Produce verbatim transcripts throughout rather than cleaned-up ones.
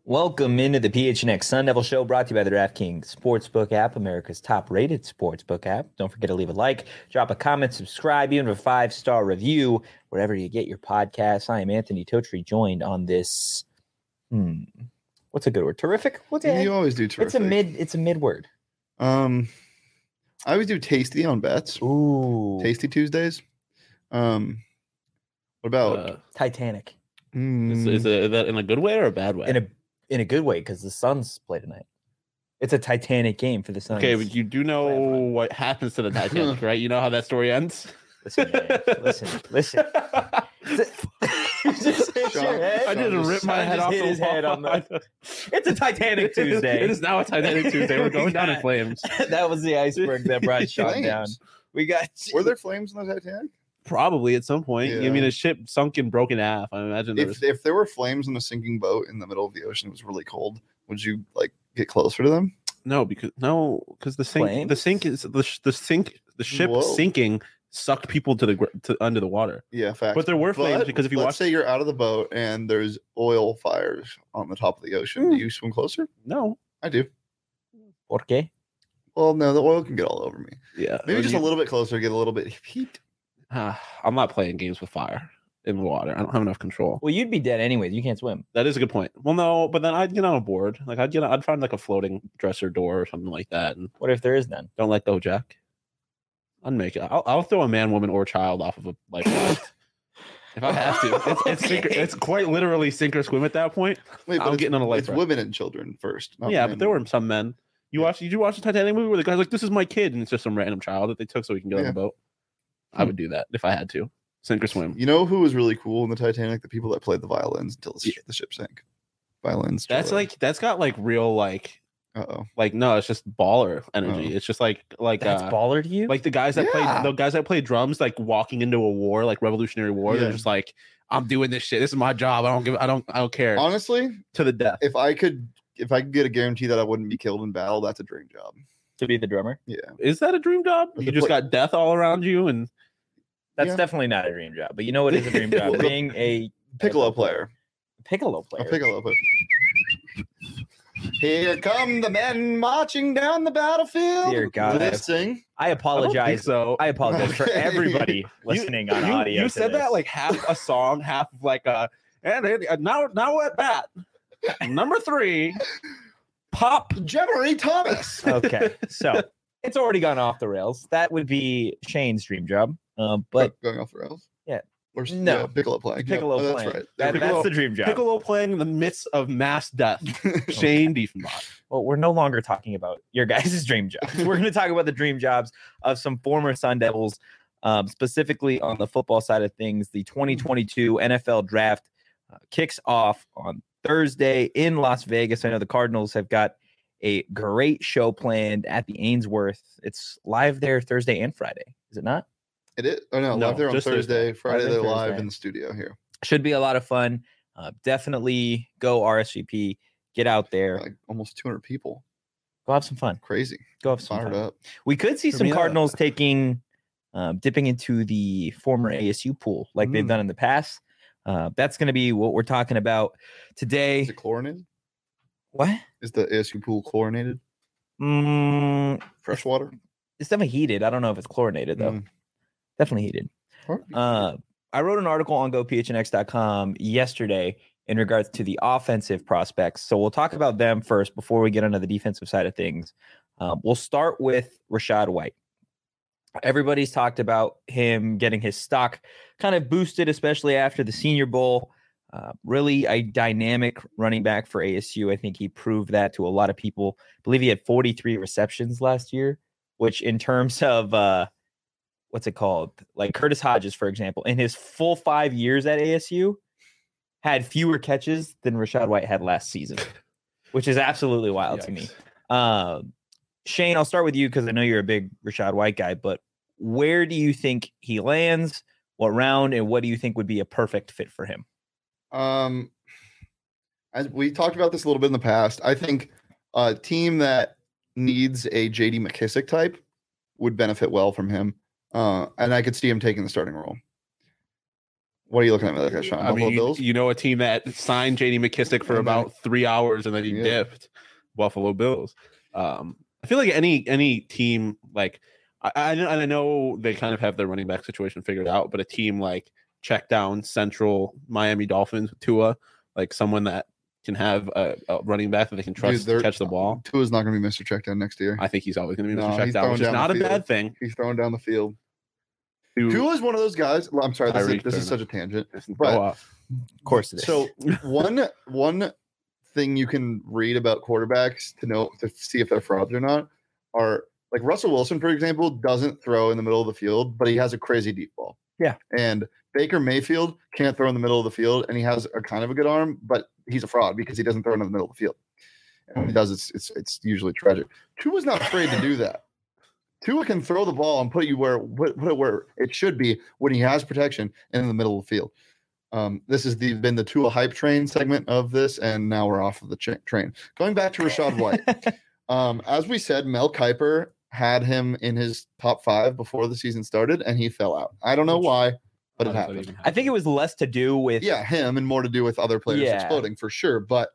Welcome into the P H N X Sun Devil Show, brought to you by the DraftKings Sportsbook app, America's top-rated sportsbook app. Don't forget to leave a like, drop a comment, subscribe, even a five-star review, wherever you get your podcasts. I am Anthony Totri, joined on this, hmm, what's a good word? Terrific? What's it? You always do terrific. It's a mid, it's a mid word. Um, I always do tasty on bets. Ooh. Tasty Tuesdays. Um, what about Uh, Titanic. mm, is, is, it, is that in a good way or a bad way? In a in a good way, because the Suns play tonight. It's a Titanic game for the Suns. Okay, but you do know what happens to the Titanic, right? You know how that story ends? Listen, man. listen, listen. You just hit Sean- your head. I didn't rip my Sean head just off hit the his head wall. on the- It's a Titanic Tuesday. It is now a Titanic Tuesday. We're going down in flames. That was the iceberg that brought Sean Flames. down. We got were there flames in the Titanic? Probably at some point. I Yeah. mean, a ship sunk and broke in half. I imagine there was... If if there were flames in a sinking boat in the middle of the ocean, it was really cold. Would you like get closer to them? No, because no, because the sink, the Flames? sink is the sh- the sink, the ship Whoa. sinking sucked people to the gr- to under the water. Yeah, fact. But there were flames because if you let's watch, say you're out of the boat and there's oil fires on the top of the ocean, do you swim closer? no, I do. Por qué? Well, no, the oil can get all over me. yeah, Maybe when just you- a little bit closer, get a little bit of heat. Ah, I'm not playing games with fire in the water. I don't have enough control. Well, you'd be dead anyways. You can't swim. That is a good point. Well, no, but then I'd get on a board. Like I'd get, I'd find like a floating dresser door or something like that, and What if there is none? don't let go, Jack. I'd make it. I'll, I'll throw a man, woman, or child off of a life raft if I have to. It's it's, sink, Okay. it's quite literally sink or swim at that point. Wait, I'm it's, getting on a life it's raft. women and children first. not yeah, men. but there were some men. You watched? Did you watch the Titanic movie where the guy's like, "This is my kid," and it's just some random child that they took so he can get on Yeah. the boat? I would do that if I had to. Sink or swim. You know who was really cool in the Titanic? The people that played the violins until the, sh- the ship sank. Violins. That's like that's got like real like Uh oh. like no, it's just baller energy. Oh. It's just like like That's uh, baller to you? like the guys that Yeah. play the guys that play drums like walking into a war like Revolutionary War. Yeah. They're just like, I'm doing this shit. This is my job. I don't give. I don't. I don't care. Honestly, To the death. if I could, if I could get a guarantee that I wouldn't be killed in battle, that's a dream job. to be the drummer? Yeah. Is that a dream job? The You just pla- got death all around you, and That's Yeah. definitely not a dream job. But you know what is a dream job? Well, Being a Piccolo player. Piccolo A player. piccolo player. Here come the men marching down the battlefield. Dear God. Let's sing. I I don't think apologize. so. I apologize for Okay. everybody listening on you, audio. You to said this. that like half a song, half of like a and and now now at bat number three, pop. Jemery Thomas. Okay, so it's already gone off the rails. That would be Shane's dream job. Um, but going off the rails. Yeah. Or No. yeah, piccolo playing. Yeah, Piccolo oh, that's playing. right. That- Piccolo- that's the dream job. Piccolo playing in the midst of mass death. Shane Diefenbach. Well, we're no longer talking about your guys' dream jobs. We're going to talk about the dream jobs of some former Sun Devils, um, specifically on the football side of things. The twenty twenty-two N F L draft uh, kicks off on Thursday in Las Vegas. I know the Cardinals have got a great show planned at the Ainsworth. It's live there Thursday and Friday, is it not? It is. Oh no, No, live there on just Thursday. Friday Live they're there live Thursday. in the studio here. Should be a lot of fun. Uh, definitely go R S V P. Get out there. Like almost two hundred people. Go have some fun. Crazy. Go have some Fired fun. up. We could see For some me, uh, Cardinals taking, um, dipping into the former A S U pool like they've Mm. done in the past. Uh, that's going to be what we're talking about today. Is it chlorinated? What? Is the A S U pool chlorinated? Mm, Fresh water? it's definitely heated. I don't know if it's chlorinated though. Mm. Definitely heated. Uh, I wrote an article on go p h n x dot com yesterday in regards to the offensive prospects. So we'll talk about them first before we get onto the defensive side of things. Um, we'll start with Rachaad White. Everybody's talked about him getting his stock kind of boosted, especially after the Senior Bowl. Uh, really a dynamic running back for A S U. I think he proved that to a lot of people. I believe he had forty-three receptions last year, which in terms of uh, what's it called? Like Curtis Hodges, for example, in his full five years at A S U, had fewer catches than Rachaad White had last season, which is absolutely wild to me. Yikes. Um, Shane, I'll start with you because I know you're a big Rachaad White guy, but where do you think he lands? What round, and what do you think would be a perfect fit for him? Um, as we talked about this a little bit in the past, I think a team that needs a J D McKissick type would benefit well from him. Uh, and I could see him taking the starting role. What are you looking at me like, Sean? I Buffalo mean, you, Bills? you know, a team that signed J D McKissick for And then- about three hours and then he Yeah. dipped. Buffalo Bills. Um, I feel like any any team like I, I know- and I know they kind of have their running back situation figured out, but a team like check down Central Miami Dolphins with Tua, like someone that can have a, a running back that they can trust Dude, to catch the ball. Tua's not going to be Mister Checkdown next year. I think he's always going to be No, Mister he's Checkdown, throwing which is down the not a field. bad thing. He's throwing down the field. To- Tua's one of those guys. I'm sorry, this, is, Tyreek this is Turner. such a tangent. Go but- off. Of course it is. So one one thing you can read about quarterbacks to know to see if they're frauds or not are like Russell Wilson, for example, doesn't throw in the middle of the field, but he has a crazy deep ball. Yeah. And Baker Mayfield can't throw in the middle of the field, and he has a kind of a good arm, but he's a fraud because he doesn't throw in the middle of the field. And when he does, it's it's it's usually tragic. Tua's not afraid to do that. Tua can throw the ball and put you where put it where it should be when he has protection and in the middle of the field. Um, this has the, been the Tua hype train segment of this, and now we're off of the cha- train. Going back to Rachaad White, um, as we said, Mel Kiper had him in his top five before the season started, and he fell out. I don't know why, but it How does that happened. even I think it was less to do with Yeah, him and more to do with other players Yeah. exploding for sure. But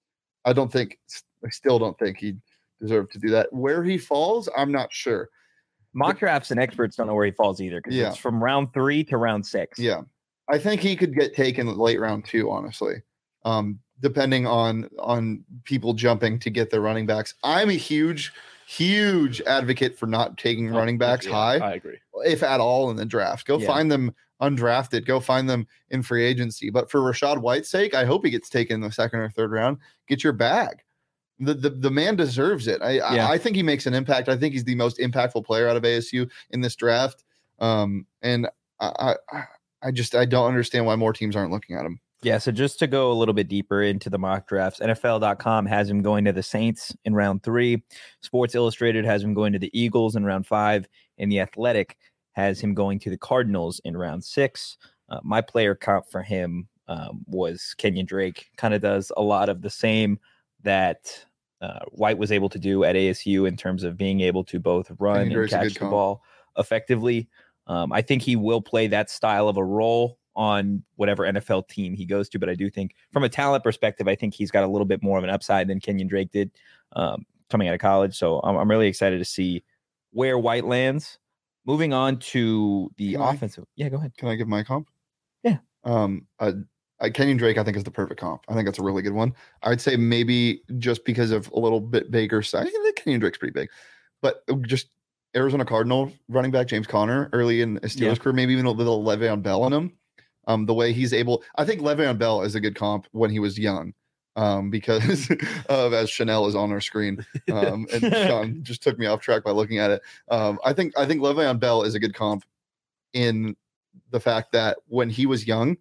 I don't think, I still don't think he deserved to do that. Where he falls, I'm not sure. mock drafts and experts don't know where he falls either because Yeah. it's from round three to round six. Yeah, I think he could get taken late round two, honestly, um, depending on on people jumping to get their running backs. I'm a huge, huge advocate for not taking running backs Yeah, high, I agree. if at all, in the draft. Go Yeah. find them undrafted. Go find them in free agency. But for Rachaad White's sake, I hope he gets taken in the second or third round. Get your bag. The the, the man deserves it. I, Yeah. I I think he makes an impact. I think he's the most impactful player out of A S U in this draft. Um, and I, I I just I don't understand why more teams aren't looking at him. Yeah, so just to go a little bit deeper into the mock drafts, N F L dot com has him going to the Saints in round three. Sports Illustrated has him going to the Eagles in round five. And The Athletic has him going to the Cardinals in round six. Uh, my player comp for him um, was Kenyon Drake. Kind of does a lot of the same that uh, White was able to do at A S U in terms of being able to both run Kenyon and Drake's a catch good the comp. ball effectively. Um, I think he will play that style of a role on whatever N F L team he goes to. But I do think from a talent perspective, I think he's got a little bit more of an upside than Kenyon Drake did um, coming out of college. So I'm, I'm really excited to see where White lands. Moving on to the Can I- offensive. Yeah, go ahead. Can I give my comp? Yeah. Um, uh, uh, Kenyon Drake, I think, is the perfect comp. I think that's a really good one. I'd say maybe just because of a little bit bigger size. I think Kenyon Drake's pretty big, but just Arizona Cardinal running back James Conner early in his Steelers Yeah. career, maybe even a little Le'Veon Bell in him. Um, the way he's able, I think Le'Veon Bell is a good comp when he was young, um, because of as Chanel is on our screen, um, and Sean just took me off track by looking at it. Um, I think I think Le'Veon Bell is a good comp in the fact that when he was young,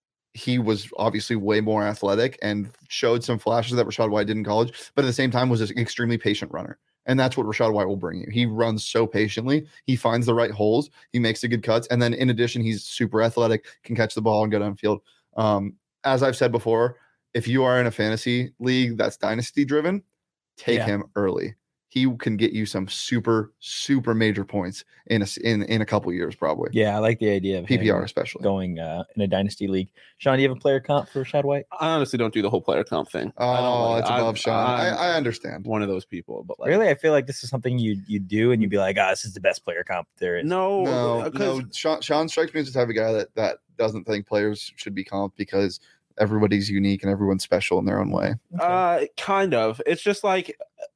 he was obviously way more athletic and showed some flashes that Rachaad White did in college, but at the same time was an extremely patient runner. And that's what Rachaad White will bring you. He runs so patiently. He finds the right holes. He makes the good cuts. And then in addition, he's super athletic, can catch the ball and go downfield. Um, as I've said before, if you are in a fantasy league that's dynasty driven, take Yeah. him early. He can get you some super, super major points in a, s- in, in a couple years, probably. Yeah, I like the idea of P P R him especially. going uh, in a dynasty league. Sean, do you have a player comp for Rachaad White? I honestly don't do the whole player comp thing. I don't Oh, like- it's above I'm- Sean. I, I'm I understand. one of those people, but like, Really? I feel like this is something you you do and you'd be like, ah, this is the best player comp there is. no, No, uh, 'cause- no. Sean, Sean strikes me as the type of guy that that doesn't think players should be comped because everybody's unique and everyone's special in their own way. Uh, kind of. It's just like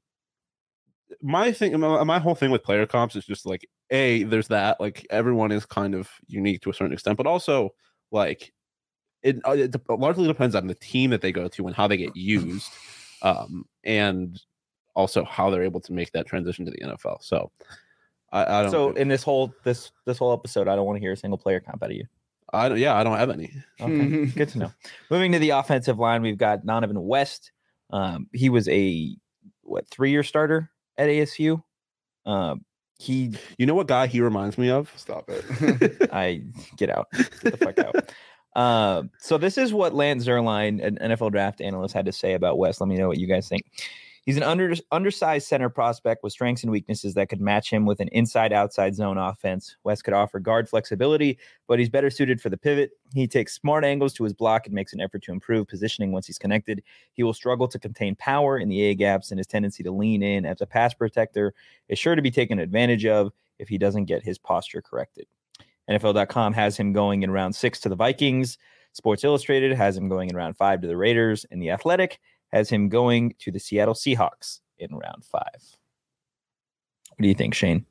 my thing. My, my whole thing with player comps is just like, a there's that like everyone is kind of unique to a certain extent, but also like it, uh, it de- largely depends on the team that they go to and how they get used, um, and also how they're able to make that transition to the N F L. So, I, I don't. So do- in this whole this this whole episode, I don't want to hear a single player comp out of you. I don't, yeah, I don't have any. Okay, good to know. Moving to the offensive line, we've got Donovan West. Um, he was a what three year starter at A S U. Um, he, You know what guy he reminds me of? Stop it. I get out, get the fuck out. Uh, so this is what Lance Zerline, an N F L draft analyst, had to say about West. Let me know what you guys think. He's an under, undersized center prospect with strengths and weaknesses that could match him with an inside-outside zone offense. West could offer guard flexibility, but he's better suited for the pivot. He takes smart angles to his block and makes an effort to improve positioning once he's connected. He will struggle to contain power in the A-gaps, and his tendency to lean in as a pass protector is sure to be taken advantage of if he doesn't get his posture corrected. N F L dot com has him going in round six to the Vikings. Sports Illustrated has him going in round five to the Raiders, and The Athletic has him going to the Seattle Seahawks in round five. What do you think, Shane?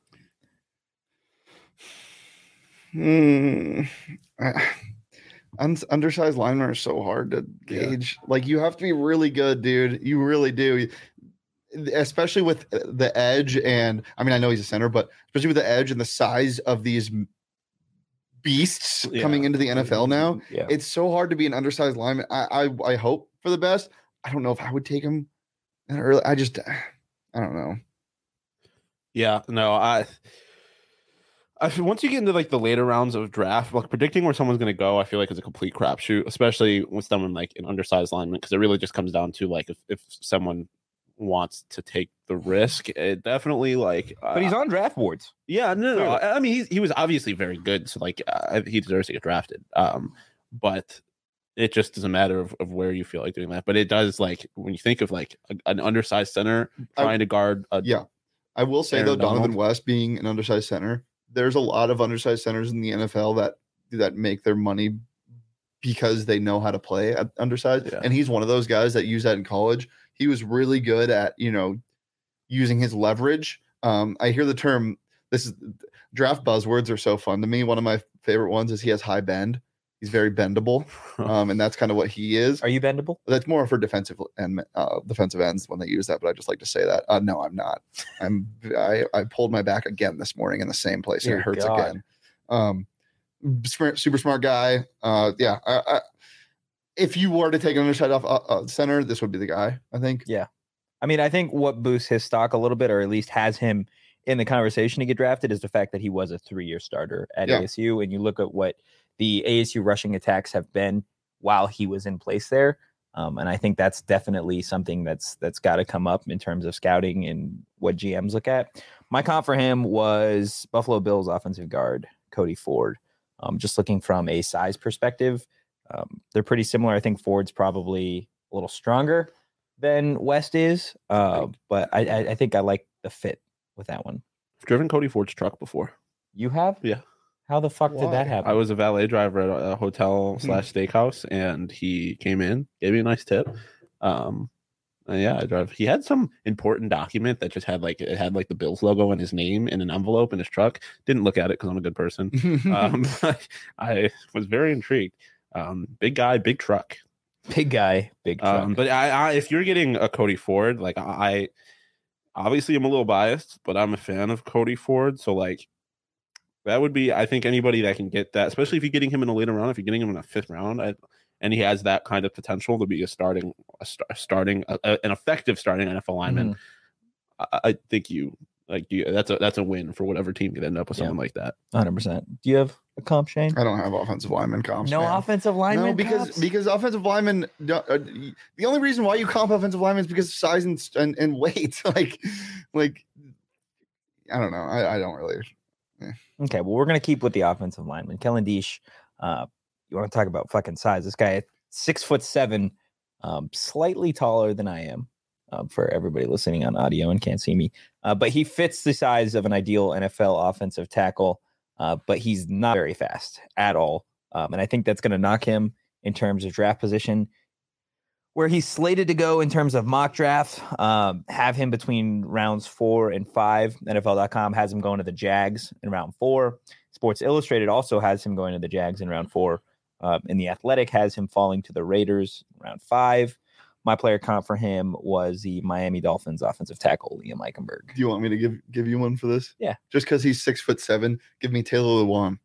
Hmm. Un- undersized linemen are so hard to gauge. Yeah. Like, you have to be really good, dude. You really do. Especially with the edge, and I mean, I know he's a center, but especially with the edge and the size of these beasts yeah. coming into the N F L now, yeah. it's so hard to be an undersized lineman. I, I I hope for the best. I don't know if I would take him that early. I just, I don't know. Yeah, no, I, I feel once you get into like the later rounds of draft, like predicting where someone's going to go, I feel like it's a complete crapshoot, especially with someone like an undersized lineman, because it really just comes down to like if, if someone wants to take the risk, it definitely like. Uh, but he's on draft boards. Yeah, no, no. I mean, he he was obviously very good, so like uh, he deserves to get drafted. Um, but. It just is a matter of, of where you feel like doing that. But it does, like, when you think of, like, a, an undersized center trying I, to guard. A, yeah. I will say, though, Donovan Donald. West being an undersized center, there's a lot of undersized centers in the N F L that that make their money because they know how to play at undersized. Yeah. And he's one of those guys that use that in college. He was really good at, you know, using his leverage. Um, I hear the term, this is draft buzzwords are so fun to me. One of my favorite ones is he has high bend. He's very bendable, um, and that's kind of what he is. Are you bendable? That's more for defensive and uh, defensive ends when they use that, but I just like to say that. Uh, no, I'm not. I'm. I, I pulled my back again this morning in the same place, and it hurts God. again. Um, super smart guy. Uh, yeah. I, I, if you were to take an underside off uh, uh, center, this would be the guy, I think. Yeah. I mean, I think what boosts his stock a little bit, or at least has him in the conversation to get drafted, is the fact that he was a three-year starter at yeah. A S U, and you look at what the A S U rushing attacks have been while he was in place there. Um, and I think that's definitely something that's that's got to come up in terms of scouting and what G Ms look at. My comp for him was Buffalo Bills offensive guard Cody Ford. Um, just looking from a size perspective, um, they're pretty similar. I think Ford's probably a little stronger than West is, uh, but I, I, I think I like the fit with that one. I've driven Cody Ford's truck before. You have? Yeah. How the fuck Why? did that happen? I was a valet driver at a hotel slash steakhouse, and he came in, gave me a nice tip. Um, and yeah, I drive. He had some important document that just had like it had like the Bills logo and his name in an envelope in his truck. Didn't look at it because I'm a good person. um, I was very intrigued. Um, big guy, big truck. Big guy, big truck. Um, but I, I, if you're getting a Cody Ford, like I, obviously I'm a little biased, but I'm a fan of Cody Ford, so like. That would be, I think, anybody that can get that, especially if you're getting him in a later round, if you're getting him in a fifth round, I, and he has that kind of potential to be a starting, a st- starting, a, a, an effective starting N F L lineman. Mm-hmm. I, I think you like you. That's a that's a win for whatever team could end up with yeah. someone like that. one hundred percent. Do you have a comp, Shane? I don't have offensive lineman comps. No man. offensive lineman. No, because comps? because offensive linemen. Uh, the only reason why you comp offensive linemen is because of size and and, and weight. like, like I don't know. I, I don't really. Okay, well, we're going to keep with the offensive lineman. Kellen Diesch, uh, you want to talk about fucking size. This guy, six foot seven, um, slightly taller than I am, uh, for everybody listening on audio and can't see me. Uh, but he fits the size of an ideal N F L offensive tackle, uh, but he's not very fast at all. Um, and I think that's going to knock him in terms of draft position. Where he's slated to go in terms of mock draft, um, have him between rounds four and five. N F L dot com has him going to the Jags in round four. Sports Illustrated also has him going to the Jags in round four. Uh, and The Athletic has him falling to the Raiders in round five. My player comp for him was the Miami Dolphins offensive tackle, Liam Eichenberg. Do you want me to give give you one for this? Yeah. Just because he's six foot seven, give me Taylor Lewan.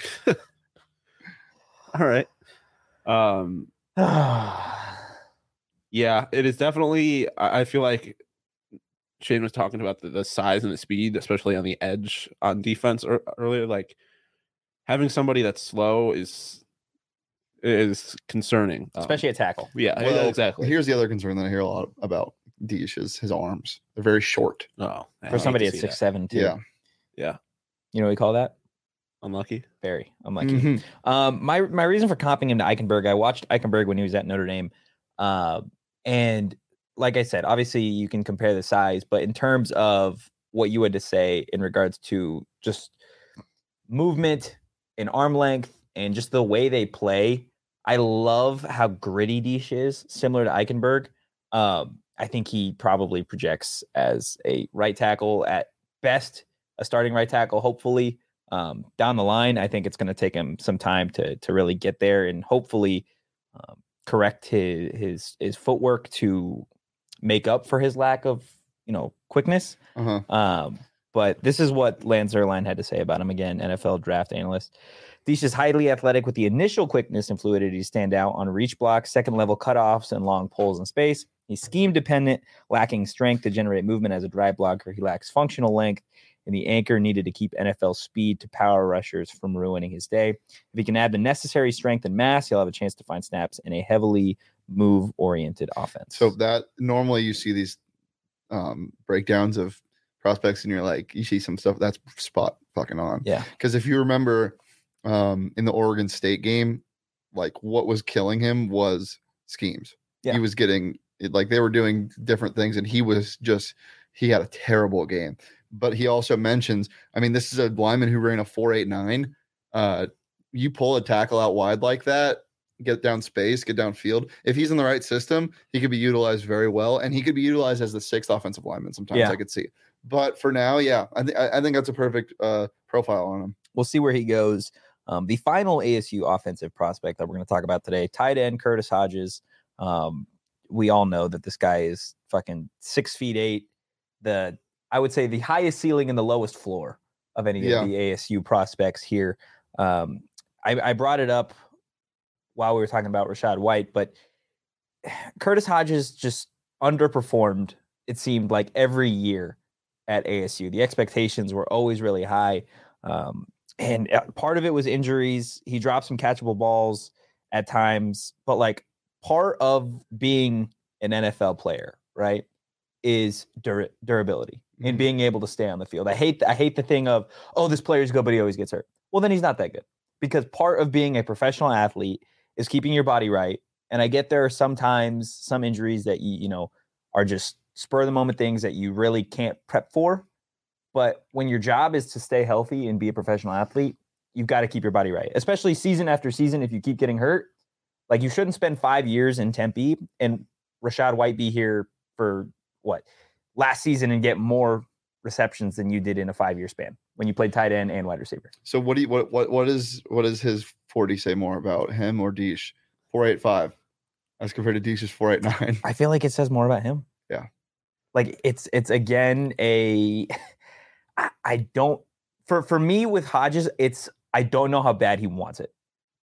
All right. Um. Yeah, it is definitely. I feel like Shane was talking about the, the size and the speed, especially on the edge on defense or, earlier. Like having somebody that's slow is is concerning, especially um, a tackle. Yeah, well, exactly. Here's the other concern that I hear a lot about Dish is his arms. They're very short. Oh, I For hate somebody to at see six that. seven, too. Yeah. Yeah. You know what we call that? Unlucky. Very unlucky. Mhm. Um, my my reason for comping him to Eichenberg, I watched Eichenberg when he was at Notre Dame, uh, and like I said, obviously you can compare the size, but in terms of what you had to say in regards to just movement and arm length and just the way they play, I love how gritty Dish is, similar to Eichenberg. Um, I think he probably projects as a right tackle at best, a starting right tackle, hopefully. Um, down the line, I think it's going to take him some time to to really get there and hopefully um, correct his his his footwork to make up for his lack of you know quickness. Uh-huh. Um, but this is what Lance Zierlein had to say about him again, N F L draft analyst. Dish is highly athletic with the initial quickness and fluidity to stand out on reach blocks, second level cutoffs, and long pulls in space. He's scheme dependent, lacking strength to generate movement as a drive blocker. He lacks functional length and the anchor needed to keep N F L speed to power rushers from ruining his day. If he can add the necessary strength and mass, he'll have a chance to find snaps in a heavily move-oriented offense. So that normally you see these um, breakdowns of prospects and you're like, you see some stuff that's spot fucking on. Yeah. Because if you remember um, in the Oregon State game, like what was killing him was schemes. Yeah. He was getting like they were doing different things and he was just, he had a terrible game. But he also mentions, I mean, this is a lineman who ran a four eight nine. Uh, you pull a tackle out wide like that, get down space, get downfield. If he's in the right system, he could be utilized very well, and he could be utilized as the sixth offensive lineman. Sometimes Yeah. I could see, but for now, yeah, I think I think that's a perfect uh, profile on him. We'll see where he goes. Um, the final A S U offensive prospect that we're going to talk about today, tight end Curtis Hodges. Um, we all know that this guy is fucking six feet eight. The I would say the highest ceiling and the lowest floor of any Yeah. of the A S U prospects here. Um, I, I brought it up while we were talking about Rashad White, but Curtis Hodges just underperformed, it seemed like, every year at A S U. The expectations were always really high. Um, and part of it was injuries. He dropped some catchable balls at times, but like part of being an N F L player, right, is dur- durability and being able to stay on the field. I hate I hate the thing of, oh, this player's good, but he always gets hurt. Well, then he's not that good, because part of being a professional athlete is keeping your body right. And I get there are sometimes some injuries that you you know are just spur of the moment things that you really can't prep for. But when your job is to stay healthy and be a professional athlete, you've got to keep your body right, especially season after season. If you keep getting hurt, like you shouldn't spend five years in Tempe and Rashad White be here for what last season and get more receptions than you did in a five-year span when you played tight end and wide receiver. So what do you what what what is what does his forty say more about him or Dish? four eight five as compared to Dish's four eight nine. I feel like it says more about him. Yeah. Like it's it's again a I, I don't for for me with Hodges, it's I don't know how bad he wants it.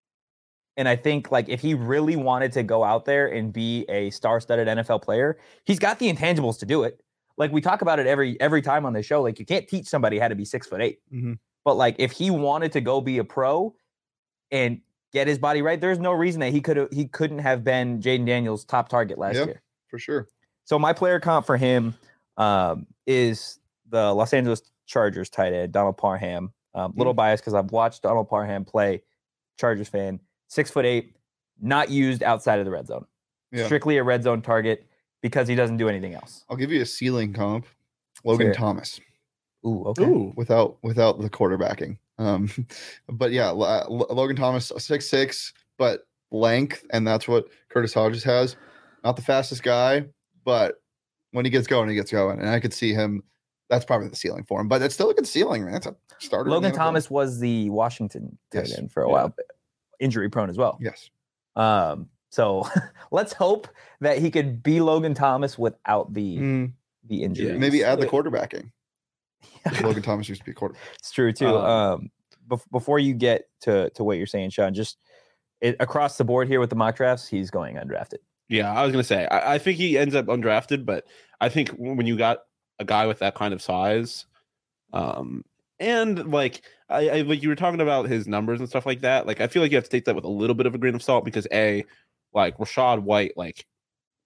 And I think like if he really wanted to go out there and be a star-studded N F L player, he's got the intangibles to do it. Like we talk about it every every time on the show. Like you can't teach somebody how to be six foot eight. Mm-hmm. But like if he wanted to go be a pro and get his body right, there's no reason that he could he couldn't have been Jaden Daniels' top target last Yep, year. for sure. So my player comp for him um, is the Los Angeles Chargers tight end Donald Parham. Um, little Mm. biased because I've watched Donald Parham play. Chargers fan. Six foot eight, not used outside of the red zone. Yeah. Strictly a red zone target because he doesn't do anything else. I'll give you a ceiling comp. Logan Sure. Thomas Ooh, okay. Ooh. without without the quarterbacking. Um, but yeah, L- L- Logan Thomas six six, but length, and that's what Curtis Hodges has. Not the fastest guy, but when he gets going, he gets going, and I could see him. That's probably the ceiling for him, but it's still a good ceiling, man. It's a starter. in Logan the N F L. Thomas was the Washington tight Yes. end for a Yeah. while, injury prone as well. Yes. Um, so let's hope that he could be Logan Thomas without the Mm, the injury. maybe add the Yeah. quarterbacking. Logan Thomas used to be a quarterback. It's true too. Um, Um, bef- before you get to to what you're saying, Sean, just it, across the board here with the mock drafts, he's going undrafted. Yeah, I was gonna say I, I think he ends up undrafted, but I think when you got a guy with that kind of size, um, and like I, I like you were talking about his numbers and stuff like that, like I feel like you have to take that with a little bit of a grain of salt because a like Rashad White, like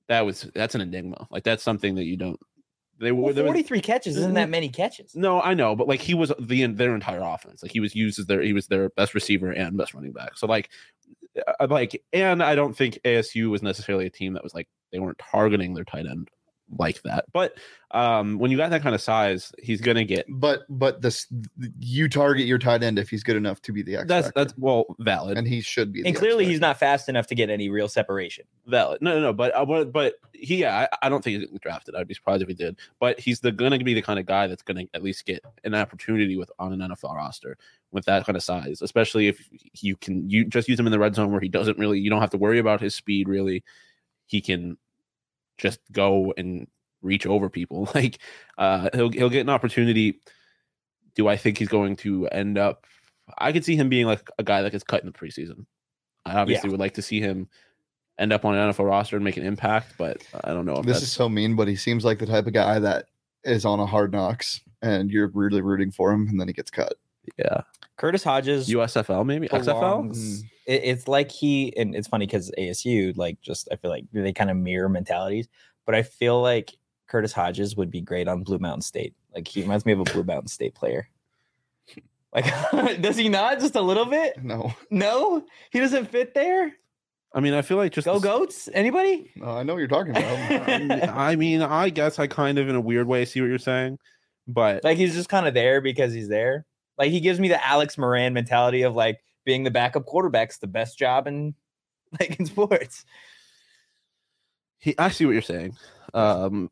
that was that's an enigma. Like that's something that you don't. They were well, forty-three catches isn't that many catches. No, I know, but like he was the their entire offense. Like he was used as their he was their best receiver and best running back. So like, like, and I don't think A S U was necessarily a team that was like they weren't targeting their tight end like that. But um, when you got that kind of size, he's gonna get. But but this you target your tight end if he's good enough to be the X That's factor. that's well valid, and he should be. And the clearly, X he's not fast enough to get any real separation. valid. No, no, no. But uh, but, but he, yeah, I, I don't think he's gonna get drafted. I'd be surprised if he did. But he's the gonna be the kind of guy that's gonna at least get an opportunity with on an N F L roster with that kind of size, especially if you can you just use him in the red zone where he doesn't really. You don't have to worry about his speed really. He can just go and reach over people. Like uh he'll he'll get an opportunity. Do I think he's going to end up I could see him being like a guy that gets cut in the preseason. I obviously yeah. would like to see him end up on an N F L roster and make an impact, but I don't know if this that's... is so mean, but he seems like the type of guy that is on a Hard Knocks and you're really rooting for him and then he gets cut. Yeah. Curtis Hodges, U S F L maybe X F L. Mm. It, it's like he and it's funny because A S U like just I feel like they kind of mirror mentalities, but I feel like Curtis Hodges would be great on Blue Mountain State. Like he reminds me of a Blue Mountain State player. Like, does he not just a little bit? No, no, he doesn't fit there. I mean, I feel like just go goats. Anybody? No, I know what you're talking about. I mean, I guess I kind of in a weird way see what you're saying, but like he's just kind of there because he's there. Like he gives me the Alex Moran mentality of like being the backup quarterback's the best job in like in sports. He, I see what you're saying. Um,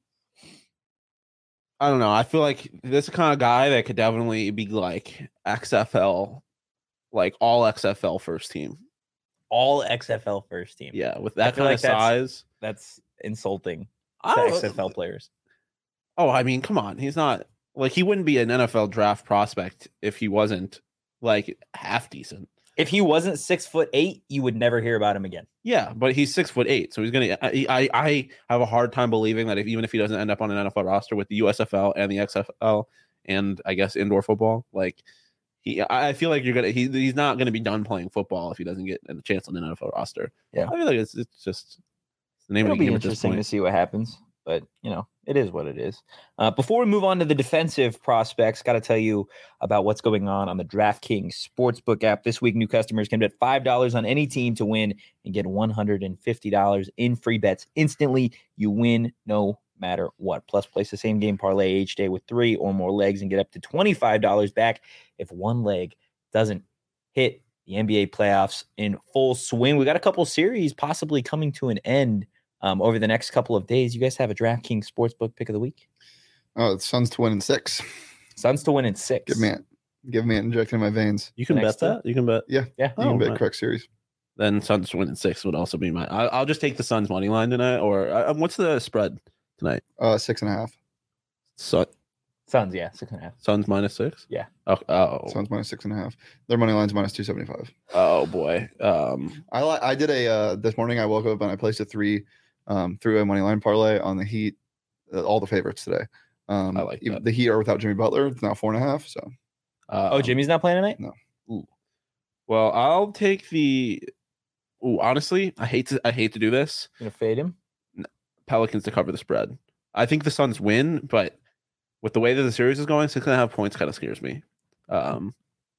I don't know. I feel like this is the kind of guy that could definitely be like X F L, like all X F L first team. All X F L first team. Yeah, with that kind like of size. That's, that's insulting to X F L players. Oh, I mean, come on. He's not like he wouldn't be an N F L draft prospect if he wasn't like half decent. If he wasn't six foot eight, you would never hear about him again. Yeah, but he's six foot eight, so he's gonna. I, I I have a hard time believing that if even if he doesn't end up on an N F L roster with the U S F L and the X F L and I guess indoor football, like he, I feel like you're gonna. He, he's not gonna be done playing football if he doesn't get a chance on an N F L roster. Yeah, I feel like it's it's just the name It'll of the game. It'll be interesting to see what happens. But, you know, it is what it is. Uh, before we move on to the defensive prospects, got to tell you about what's going on on the DraftKings Sportsbook app. This week, new customers can bet five dollars on any team to win and get one hundred fifty dollars in free bets instantly. You win no matter what. Plus, place the same game parlay each day with three or more legs and get up to twenty-five dollars back if one leg doesn't hit. The N B A playoffs in full swing. We got a couple series possibly coming to an end Um, over the next couple of days. You guys have a DraftKings Sportsbook pick of the week? Oh, the Suns to win in six. Suns to win in six. Give me it. Give me it. Injecting my veins. You can bet that? You can bet? Yeah. Yeah. You oh, can bet right. correct series. Then Suns to win in six would also be my... I, I'll just take the Suns money line tonight. Or uh, what's the spread tonight? Uh, Six and a half. Sun, Suns, yeah. Six and a half. Suns minus six? Yeah. Oh, oh. Suns minus six and a half. Their money line's minus two seventy-five. Oh, boy. Um, I li- I did a... Uh, this morning I woke up and I placed a three... Um, through a money line parlay on the Heat, uh, all the favorites today. Um, I like that. The Heat are without Jimmy Butler. It's now four and a half. So, uh, oh, Jimmy's not playing tonight. No. Ooh. Well, I'll take the. Ooh, honestly, I hate to. I hate to do this. You gonna fade him? Pelicans to cover the spread. I think the Suns win, but with the way that the series is going, six and a half points kind of scares me. Um,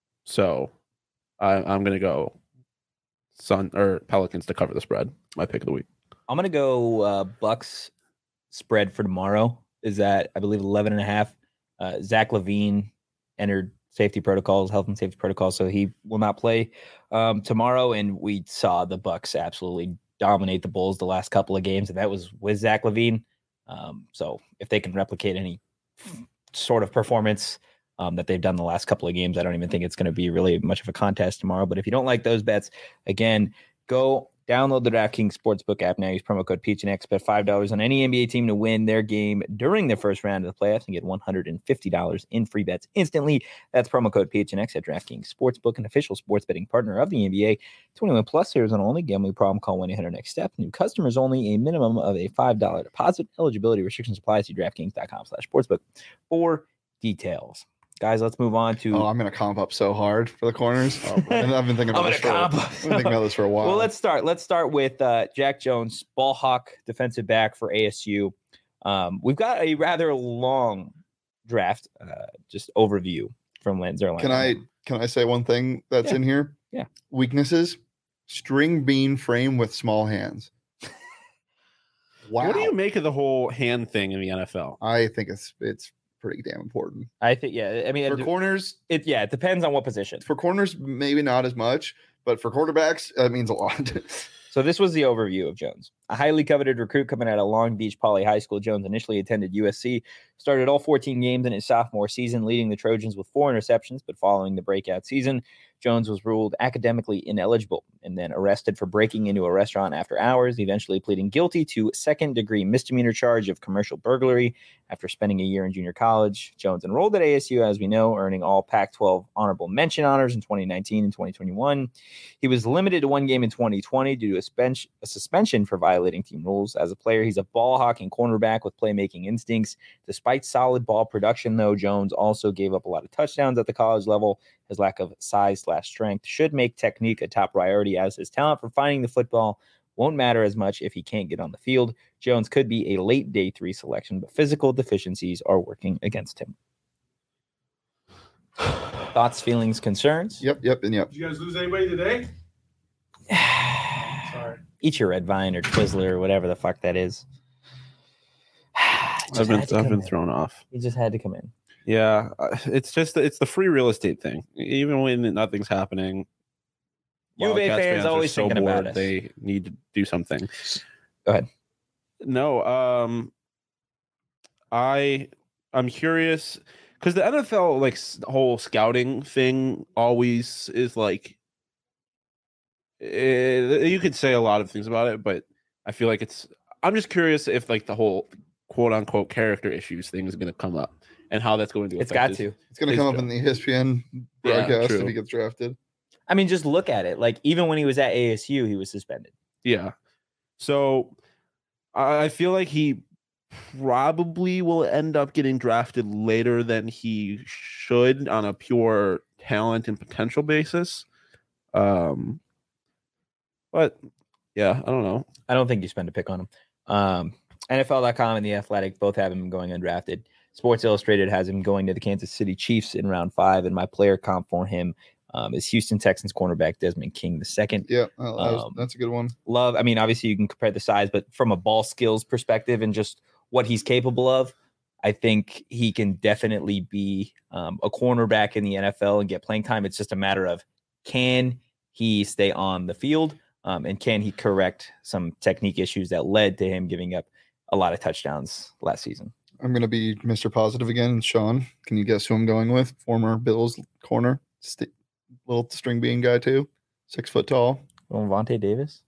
so I, I'm gonna go Sun or Pelicans to cover the spread. My pick of the week. I'm going to go uh, Bucks spread for tomorrow is that I believe eleven and a half. Uh, Zach LaVine entered safety protocols, health and safety protocols, so he will not play um, tomorrow. And we saw the Bucks absolutely dominate the Bulls the last couple of games, and that was with Zach LaVine. Um, so if they can replicate any sort of performance um, that they've done the last couple of games, I don't even think it's going to be really much of a contest tomorrow. But if you don't like those bets, again, go download the DraftKings Sportsbook app now. Use promo code P H N X. Bet five dollars on any N B A team to win their game during the first round of the playoffs and get one hundred fifty dollars in free bets instantly. That's promo code P H N X at DraftKings Sportsbook, an official sports betting partner of the N B A. twenty-one plus, Arizona only. Gambling problem, call one eight hundred next step. New customers only. A minimum of a five dollars deposit. Eligibility restrictions apply. See DraftKings.com slash sportsbook for details. Guys, let's move on to. Oh, I'm gonna comp up so hard for the corners. Oh, and I've been thinking about I'm this. gonna For, comp. I've been thinking about this for a while. Well, let's start. Let's start with uh, Jack Jones, ball hawk, defensive back for A S U. Um, we've got a rather long draft, uh, just overview from Lance Zierlein. Can I can I say one thing that's Yeah. in here? Yeah. Weaknesses: string bean frame with small hands. Wow. What do you make of the whole hand thing in the N F L? I think it's it's pretty damn important. I think, yeah. I mean, For it, corners, it yeah, it depends on what position. for corners, maybe not as much, but for quarterbacks, that means a lot. So this was the overview of Jones. A highly coveted recruit coming out of Long Beach Poly High School, Jones initially attended U S C, started all fourteen games in his sophomore season, leading the Trojans with four interceptions, but following the breakout season, Jones was ruled academically ineligible and then arrested for breaking into a restaurant after hours, eventually pleading guilty to second-degree misdemeanor charge of commercial burglary after spending a year in junior college. Jones enrolled at A S U, as we know, earning all Pac twelve honorable mention honors in twenty nineteen and twenty twenty-one. He was limited to one game in twenty twenty due to a, spen- a suspension for violating team rules. As a player, he's a ball hawking cornerback with playmaking instincts. Despite solid ball production, though, Jones also gave up a lot of touchdowns at the college level. His lack of size slash strength should make technique a top priority, as his talent for finding the football won't matter as much if he can't get on the field. Jones could be a late day three selection, but physical deficiencies are working against him. Thoughts, feelings, concerns? Yep, yep, and yep. Did you guys lose anybody today? Sorry. Eat your red vine or Twizzler or whatever the fuck that is. Just I've been had to I've come been in. thrown off. He just had to come in. Yeah, uh, it's just it's the free real estate thing. Even when nothing's happening, U of A Wildcats fans are always so thinking about bored, us. They need to do something. Go ahead. No, um, I I'm curious because the N F L like s- whole scouting thing always is like eh, you could say a lot of things about it, but I feel like it's. I'm just curious if like the whole quote unquote character issues thing is going to come up and how that's going to. It's affect got his- to. It's gonna His come up job. in the E S P N Yeah, broadcast true. if he gets drafted. I mean, just look at it. Like, even when he was at A S U, he was suspended. Yeah. So I I feel like he probably will end up getting drafted later than he should on a pure talent and potential basis. Um, but yeah, I don't know. I don't think you spend a pick on him. Um, N F L dot com and The Athletic both have him going undrafted. Sports Illustrated has him going to the Kansas City Chiefs in round five, and my player comp for him um, is Houston Texans cornerback Desmond King the second. Yeah, uh, that was- Um, that's a good one. Love, I mean, obviously you can compare the size, but from a ball skills perspective and just what he's capable of, I think he can definitely be um, a cornerback in the N F L and get playing time. It's just a matter of can he stay on the field um, and can he correct some technique issues that led to him giving up a lot of touchdowns last season. I'm gonna be Mister Positive again. Sean, can you guess who I'm going with? Former Bills corner, st- little string bean guy too, six foot tall, Well, Vontae Davis?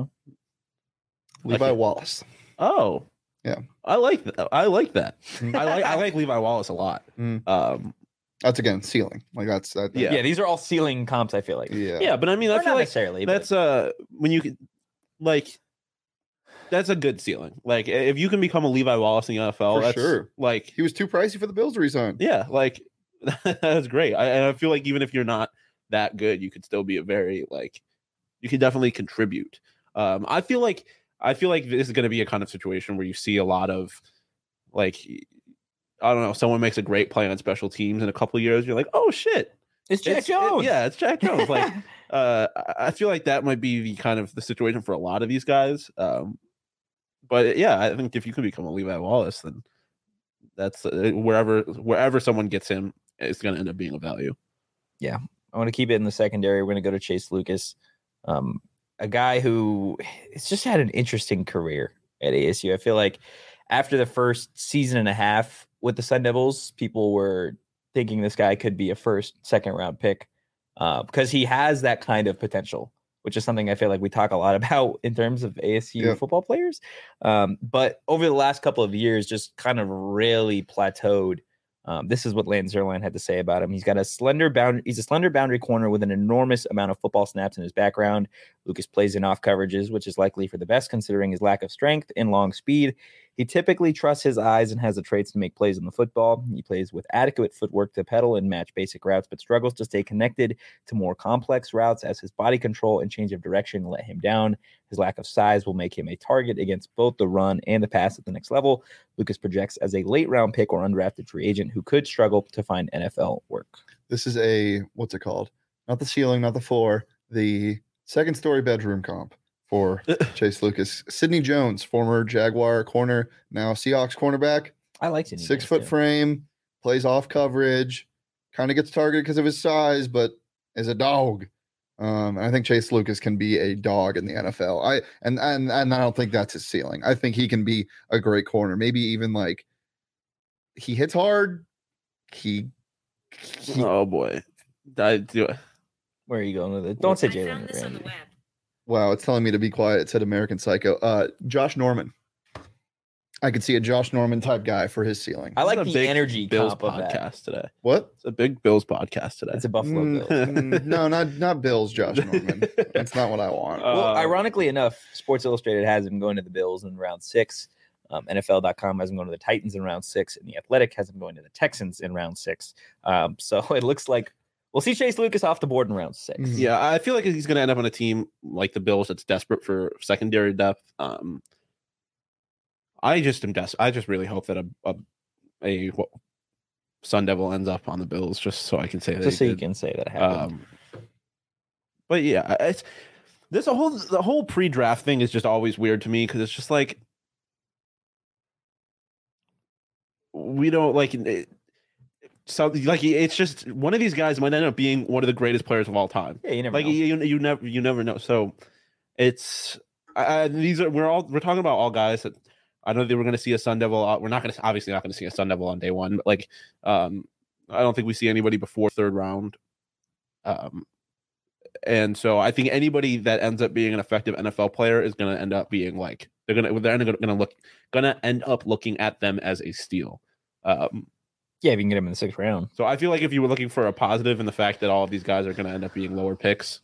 Levi Okay. Wallace. Oh, Yeah. I like that. I like that. Mm. I like I like Levi Wallace a lot. Mm. Um, That's again ceiling. Like that's that. Yeah. Yeah, these are all ceiling comps, I feel like. yeah, yeah, but I mean, Or I not feel like necessarily. but- that's uh when you can like that's a good ceiling. Like if you can become a Levi Wallace in the N F L, For that's sure. like He was too pricey for the Bills to resign. yeah, like that's great. I, and I feel like even if you're not that good, you could still be a very like you could definitely contribute. Um, I feel like I feel like this is going to be a kind of situation where you see a lot of like I don't know, someone makes a great play on special teams in a couple of years. You're like, oh shit, it's Jack it's- Jones. it- yeah, it's Jack Jones. Like, uh, I- I feel like that might be the kind of the situation for a lot of these guys. Um, but yeah, I think if you can become a Levi Wallace, then that's uh, wherever wherever someone gets him, it's going to end up being of value. I want to keep it in the secondary. We're going to go to Chase Lucas, um, a guy who has just had an interesting career at A S U. I feel like after the first season and a half with the Sun Devils, people were thinking this guy could be a first, second round pick uh, because he has that kind of potential, which is something I feel like we talk a lot about in terms of A S U Yeah. football players. Um, but over the last couple of years, just kind of really plateaued. Um, this is what Lance Zierlein had to say about him. He's got a slender boundary. He's a slender boundary corner with an enormous amount of football snaps in his background. Lucas plays in off coverages, which is likely for the best considering his lack of strength and long speed. He typically trusts his eyes and has the traits to make plays in the football. He plays with adequate footwork to pedal and match basic routes, but struggles to stay connected to more complex routes as his body control and change of direction let him down. His lack of size will make him a target against both the run and the pass at the next level. Lucas projects as a late round pick or undrafted free agent who could struggle to find N F L work. This is a, what's it called? Not the ceiling, not the floor, the second story bedroom comp for Chase Lucas. Sidney Jones, former Jaguar corner, now Seahawks cornerback. I like Sidney Six Jones, foot too. frame, plays off coverage, kind of gets targeted because of his size, but is a dog. Um, and I think Chase Lucas can be a dog in the N F L. I and and and I don't think that's his ceiling. I think he can be a great corner. Maybe even like he hits hard. He, he Oh boy, I do it. Where are you going with it? Don't say I Jalen found this on the Ramsey. web. Wow, it's telling me to be quiet. It said American Psycho. Uh, Josh Norman. I could see a Josh Norman type guy for his ceiling. I like It's a the big energy Bills comp of that. podcast today. What? It's a big Bills podcast today. It's a Buffalo Mm, Bills. mm, no, not not Bills. Josh Norman. That's not what I want. Uh, Well, ironically enough, Sports Illustrated has him going to the Bills in round six. Um, N F L dot com has him going to the Titans in round six, and The Athletic has him going to the Texans in round six. Um, so it looks like we'll see Chase Lucas off the board in round six. Mhm. Yeah, I feel like he's going to end up on a team like the Bills that's desperate for secondary depth. Um, I just am des- I just really hope that a a, a what, Sun Devil ends up on the Bills, just so I can say that. Just he so you did. can say that happened. Um, but yeah, it's this a whole the whole pre-draft thing is just always weird to me because it's just like we don't like it, so like it's just one of these guys might end up being one of the greatest players of all time. yeah, you never Like know. you, you never you never know. So it's I, I, these are we're all we're talking about all guys that I know they were going to see a Sun Devil. uh, We're not going to obviously not going to see a Sun Devil on day one, but like um, I don't think we see anybody before third round. Um, and so I think anybody that ends up being an effective N F L player is going to end up being like they're going to they're going to look going to end up looking at them as a steal. Um, Yeah, if you can get him in the sixth round. so I feel like if you were looking for a positive in the fact that all of these guys are going to end up being lower picks,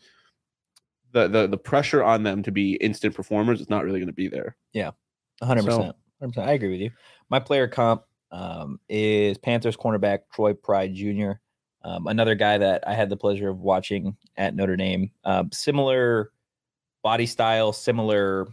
the the the pressure on them to be instant performers is not really going to be there. one hundred percent. So- one hundred percent. I agree with you. My player comp um, is Panthers cornerback Troy Pride Junior Um, another guy that I had the pleasure of watching at Notre Dame. Um, similar body style, similar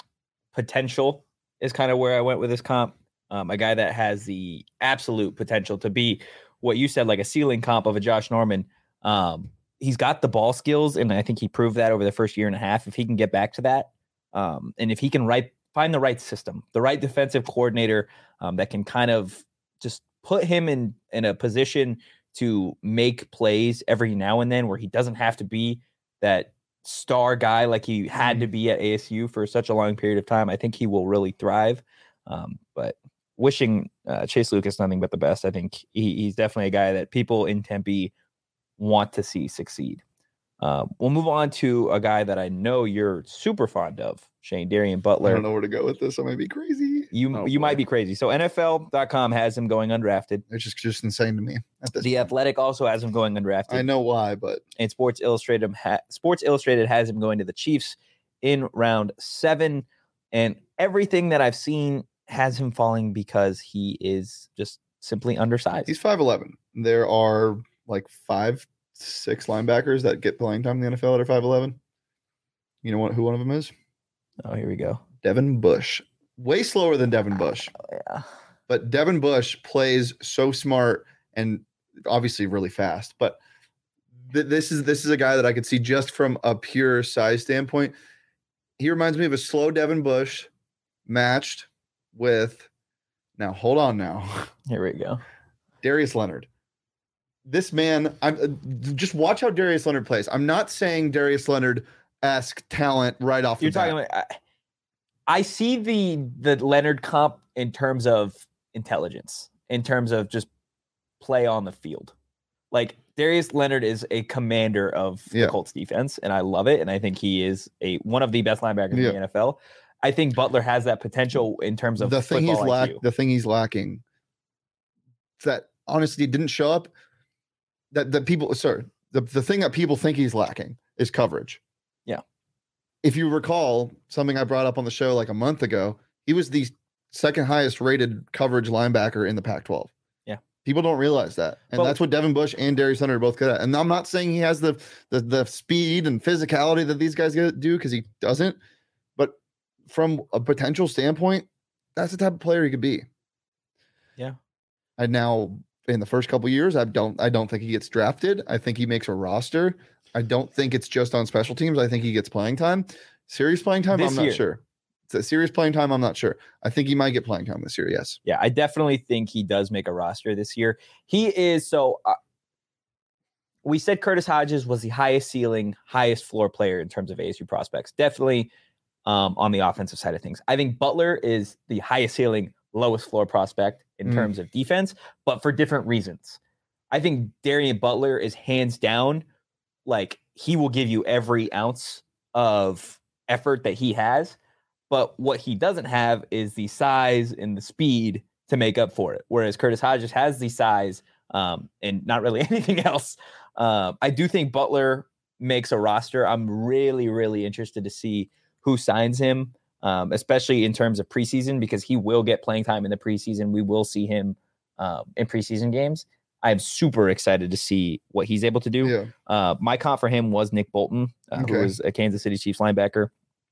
potential is kind of where I went with this comp. Um, a guy that has the absolute potential to be what you said, like a ceiling comp of a Josh Norman. Um, he's got the ball skills, and I think he proved that over the first year and a half. If he can get back to that, um, and if he can right, find the right system, the right defensive coordinator um, that can kind of just put him in in a position to make plays every now and then, where he doesn't have to be that star guy like he had to be at A S U for such a long period of time. I think he will really thrive. Um, but wishing uh, Chase Lucas nothing but the best. I think he, he's definitely a guy that people in Tempe want to see succeed. Uh, we'll move on to a guy that I know you're super fond of, Shane Darian I Butler. don't know where to go with this. I may be crazy. You Oh, you might boy. be crazy. So N F L dot com has him going undrafted. It's just just insane to me at this The point. Athletic also has him going undrafted. I know why, but And Sports Illustrated ha- Sports Illustrated has him going to the Chiefs in round seven. And everything that I've seen has him falling because he is just simply undersized. he's five eleven. There are like five, six linebackers that get playing time in the N F L that are five eleven. You know what? Who one of them is? Oh, here we go. Devin Bush. Way slower than Devin Bush, Oh, yeah. but Devin Bush plays so smart and obviously really fast. But th- this is this is a guy that I could see just from a pure size standpoint. He reminds me of a slow Devin Bush matched with. Now hold on now. Here we go. Darius Leonard. This man, I'm uh, just watch how Darius Leonard plays. I'm not saying Darius Leonard-esque talent right off the You're talking bat. about I, I see the the Leonard comp in terms of intelligence, in terms of just play on the field. Like Darius Leonard is a commander of Yeah. the Colts defense, and I love it. And I think he is a one of the best linebackers Yeah. in the N F L. I think Butler has that potential in terms of the thing he's football lack I Q. the thing he's lacking that honestly didn't show up that that people sorry the, the thing that people think he's lacking is coverage. Yeah. If you recall something I brought up on the show like a month ago, he was the second highest rated coverage linebacker in the Pac twelve. Yeah. People don't realize that. And Well, that's what Devin Bush and Darius Hunter are both good at. And I'm not saying he has the the, the speed and physicality that these guys do, because he doesn't. But from a potential standpoint, that's the type of player he could be. Yeah. And now in the first couple of years, I don't I don't think he gets drafted. I think he makes a roster. I don't think it's just on special teams. I think he gets playing time. Serious playing time, This I'm not year. sure. It's a serious playing time, I'm not sure. I think he might get playing time this year, yes. Yeah, I definitely think he does make a roster this year. He is so. Uh, we said Curtis Hodges was the highest ceiling, highest floor player in terms of A S U prospects. Definitely um, on the offensive side of things. I think Butler is the highest ceiling, lowest floor prospect in Mm. terms of defense, but for different reasons. I think Darian Butler is hands down, like he will give you every ounce of effort that he has. But what he doesn't have is the size and the speed to make up for it. Whereas Curtis Hodges has the size um, and not really anything else. Uh, I do think Butler makes a roster. I'm really, really interested to see who signs him, um, especially in terms of preseason, because he will get playing time in the preseason. We will see him um, in preseason games. I'm super excited to see what he's able to do. Yeah. Uh, my comp for him was Nick Bolton, uh, Okay. who was a Kansas City Chiefs linebacker.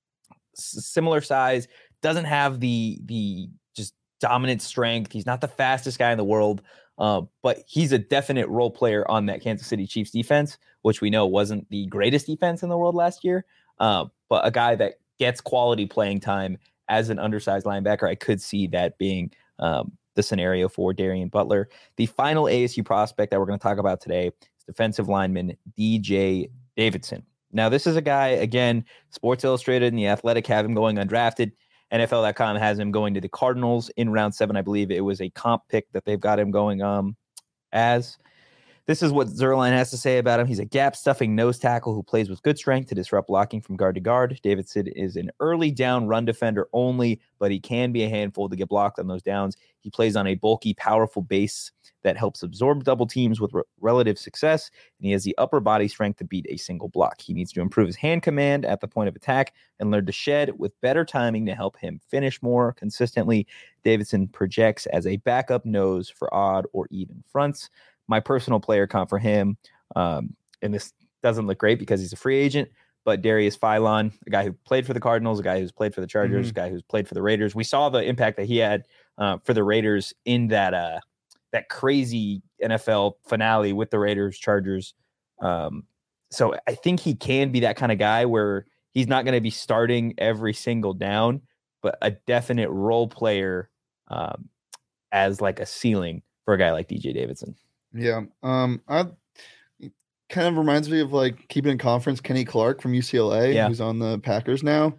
S- similar size, doesn't have the the just dominant strength. He's not the fastest guy in the world, uh, but he's a definite role player on that Kansas City Chiefs defense, which we know wasn't the greatest defense in the world last year. Uh, but a guy that gets quality playing time as an undersized linebacker, I could see that being um, the scenario for Darian Butler. The final A S U prospect that we're going to talk about today is defensive lineman D J Davidson. Now, this is a guy, again, Sports Illustrated and The Athletic have him going undrafted. N F L dot com has him going to the Cardinals in round seven. I believe it was a comp pick that they've got him going um as. This is what Zerline has to say about him. He's a gap-stuffing nose tackle who plays with good strength to disrupt blocking from guard to guard. Davidson is an early down run defender only, but he can be a handful to get blocked on those downs. He plays on a bulky, powerful base that helps absorb double teams with re- relative success, and he has the upper body strength to beat a single block. He needs to improve his hand command at the point of attack and learn to shed with better timing to help him finish more consistently. Davidson projects as a backup nose for odd or even fronts. My personal player comp for him, um, and this doesn't look great because he's a free agent, but Darius Philon, a guy who played for the Cardinals, a guy who's played for the Chargers, Mhm. a guy who's played for the Raiders. We saw the impact that he had uh, for the Raiders in that uh, that crazy N F L finale with the Raiders, Chargers. Um, so I think he can be that kind of guy where he's not going to be starting every single down, but a definite role player um, as like a ceiling for a guy like D J Davidson. Yeah. Um, I it kind of reminds me of like keeping in conference Kenny Clark from U C L A, Yeah. who's on the Packers now.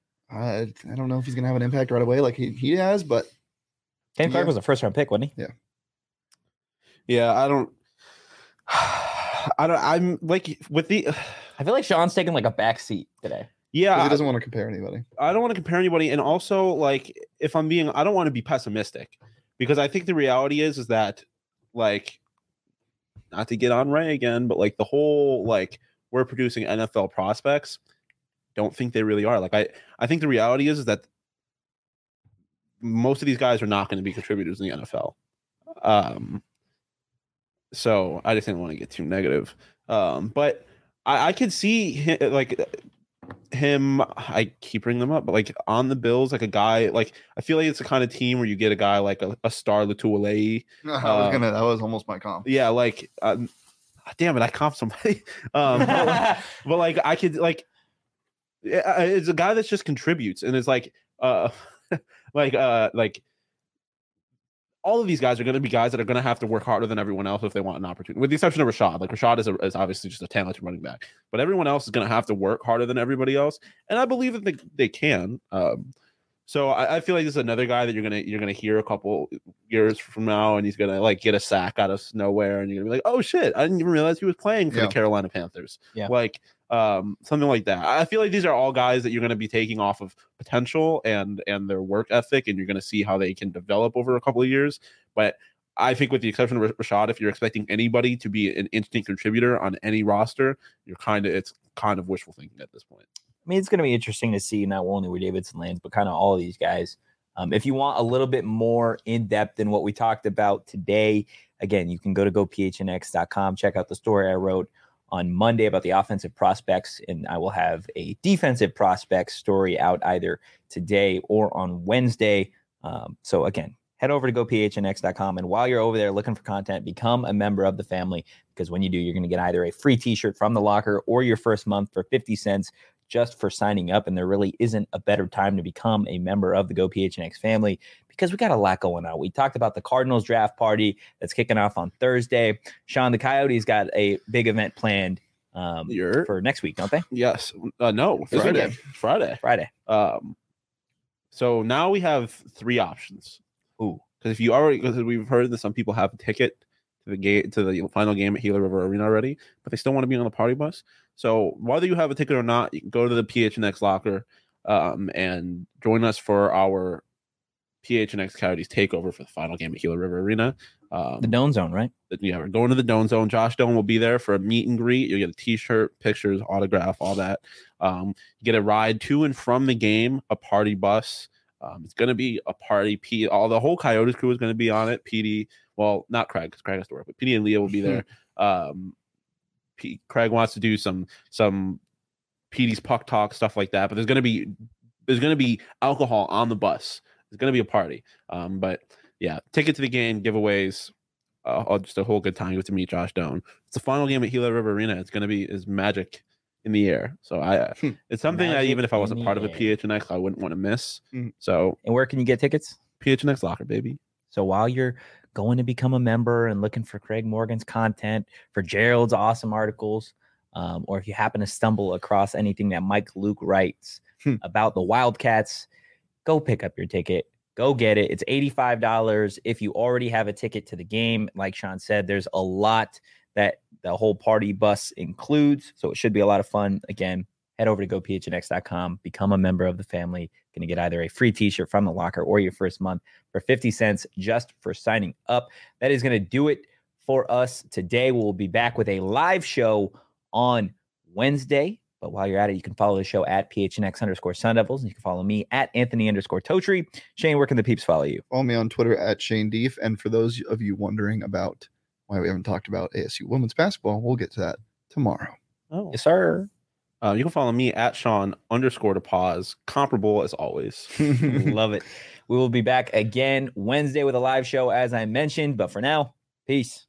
I I don't know if he's gonna have an impact right away like he, he has, but Ken Clark Yeah. was a first round pick, wasn't he? Yeah, I don't. I don't. I'm like with the. I feel like Sean's taking like a back seat today. 'cause Yeah, he doesn't want to compare anybody. I don't want to compare anybody, and also like if I'm being, I don't want to be pessimistic because I think the reality is is that like, not to get on Ray again, but like the whole like we're producing N F L prospects, don't think they really are. Like I, I think the reality is is that most of these guys are not going to be contributors in the N F L. Um, so I just didn't want to get too negative. Um, but I, I could see him, like him. I keep bringing them up, but like on the Bills, like a guy like I feel like it's the kind of team where you get a guy like a, a Star Latuolei. I was Uh, gonna that was almost my comp. Yeah, like um, damn it, I comped somebody. um, but, like, but like I could like yeah, it's a guy that just contributes and it's like uh like uh like all of these guys are going to be guys that are going to have to work harder than everyone else if they want an opportunity, with the exception of Rashad. Like Rashad is, a, is obviously just a talented running back, but everyone else is going to have to work harder than everybody else, and I believe that they, they can. Um, so I, I feel like this is another guy that you're gonna you're gonna hear a couple years from now, and he's gonna like get a sack out of nowhere, and you're gonna be like, oh shit, I didn't even realize he was playing for Yeah. the Carolina Panthers. Yeah. Like um, something like that. I feel like these are all guys that you're going to be taking off of potential and and their work ethic, and you're going to see how they can develop over a couple of years. But I think, with the exception of Rashad, if you're expecting anybody to be an instant contributor on any roster, you're kind of it's kind of wishful thinking at this point. I mean, it's going to be interesting to see not only where Davidson lands, but kind of all of these guys. Um, if you want a little bit more in depth than what we talked about today, again, you can go to go p h n x dot com, check out the story I wrote on Monday about the offensive prospects, and I will have a defensive prospects story out either today or on Wednesday. Um, so again, head over to go p h n x dot com, and while you're over there looking for content, become a member of the family, because when you do, you're going to get either a free t-shirt from the locker or your first month for fifty cents just for signing up. And there really isn't a better time to become a member of the Go P H N X family, because we got a lot going on. We talked about the Cardinals draft party that's kicking off on Thursday. Sean, the Coyotes got a big event planned um, for next week, don't they? Yes. Uh, no, This Friday. weekend. Friday. Friday. Um, so now we have three options. Ooh. Because if you already, because we've heard that some people have a ticket to the game to the final game at Gila River Arena already, but they still want to be on the party bus. So whether you have a ticket or not, you can go to the P H N X locker um, and join us for our P H N X Coyotes takeover for the final game at Gila River Arena. Um, The Dome Zone, right? yeah, we're going to the Dome Zone. Josh Doan will be there for a meet and greet. You'll get a T-shirt, pictures, autograph, all that. Um, you get a ride to and from the game, a party bus. Um, it's going to be a party. P, all the whole Coyotes crew is going to be on it. P D, well, not Craig, because Craig has to work, but P D and Leah will be there. um, P, Craig wants to do some some P D's puck talk, stuff like that. But there's going to be there's going to be alcohol on the bus. It's going to be a party. Um, but yeah, ticket to the game, giveaways, uh, just a whole good time. You get to meet Josh Doan. It's the final game at Gila River Arena. It's going to be is magic in the air. So I, uh, it's something that Magic even if I in wasn't the part of a air. P H N X, I wouldn't want to miss. Mhm. So And where can you get tickets? P H N X locker, baby. So while you're going to become a member and looking for Craig Morgan's content, for Gerald's awesome articles, um, or if you happen to stumble across anything that Mike Luke writes Hmm. about the Wildcats, go pick up your ticket. Go get it. It's eighty-five dollars if you already have a ticket to the game. Like Sean said, there's a lot that the whole party bus includes, so it should be a lot of fun. Again, head over to go p h n x dot com, become a member of the family. Going to get either a free t-shirt from the locker or your first month for fifty cents just for signing up. That is going to do it for us today. We'll be back with a live show on Wednesday. But while you're at it, you can follow the show at P H N X underscore Sun Devils. And you can follow me at Anthony underscore Totri. Shane, where can the peeps follow you? Follow me on Twitter at Shane Deef. And for those of you wondering about why we haven't talked about A S U women's basketball, we'll get to that tomorrow. Oh, Yes, sir. uh, you can follow me at Sean underscore to pause. Comparable as always. Love it. We will be back again Wednesday with a live show, as I mentioned. But for now, peace.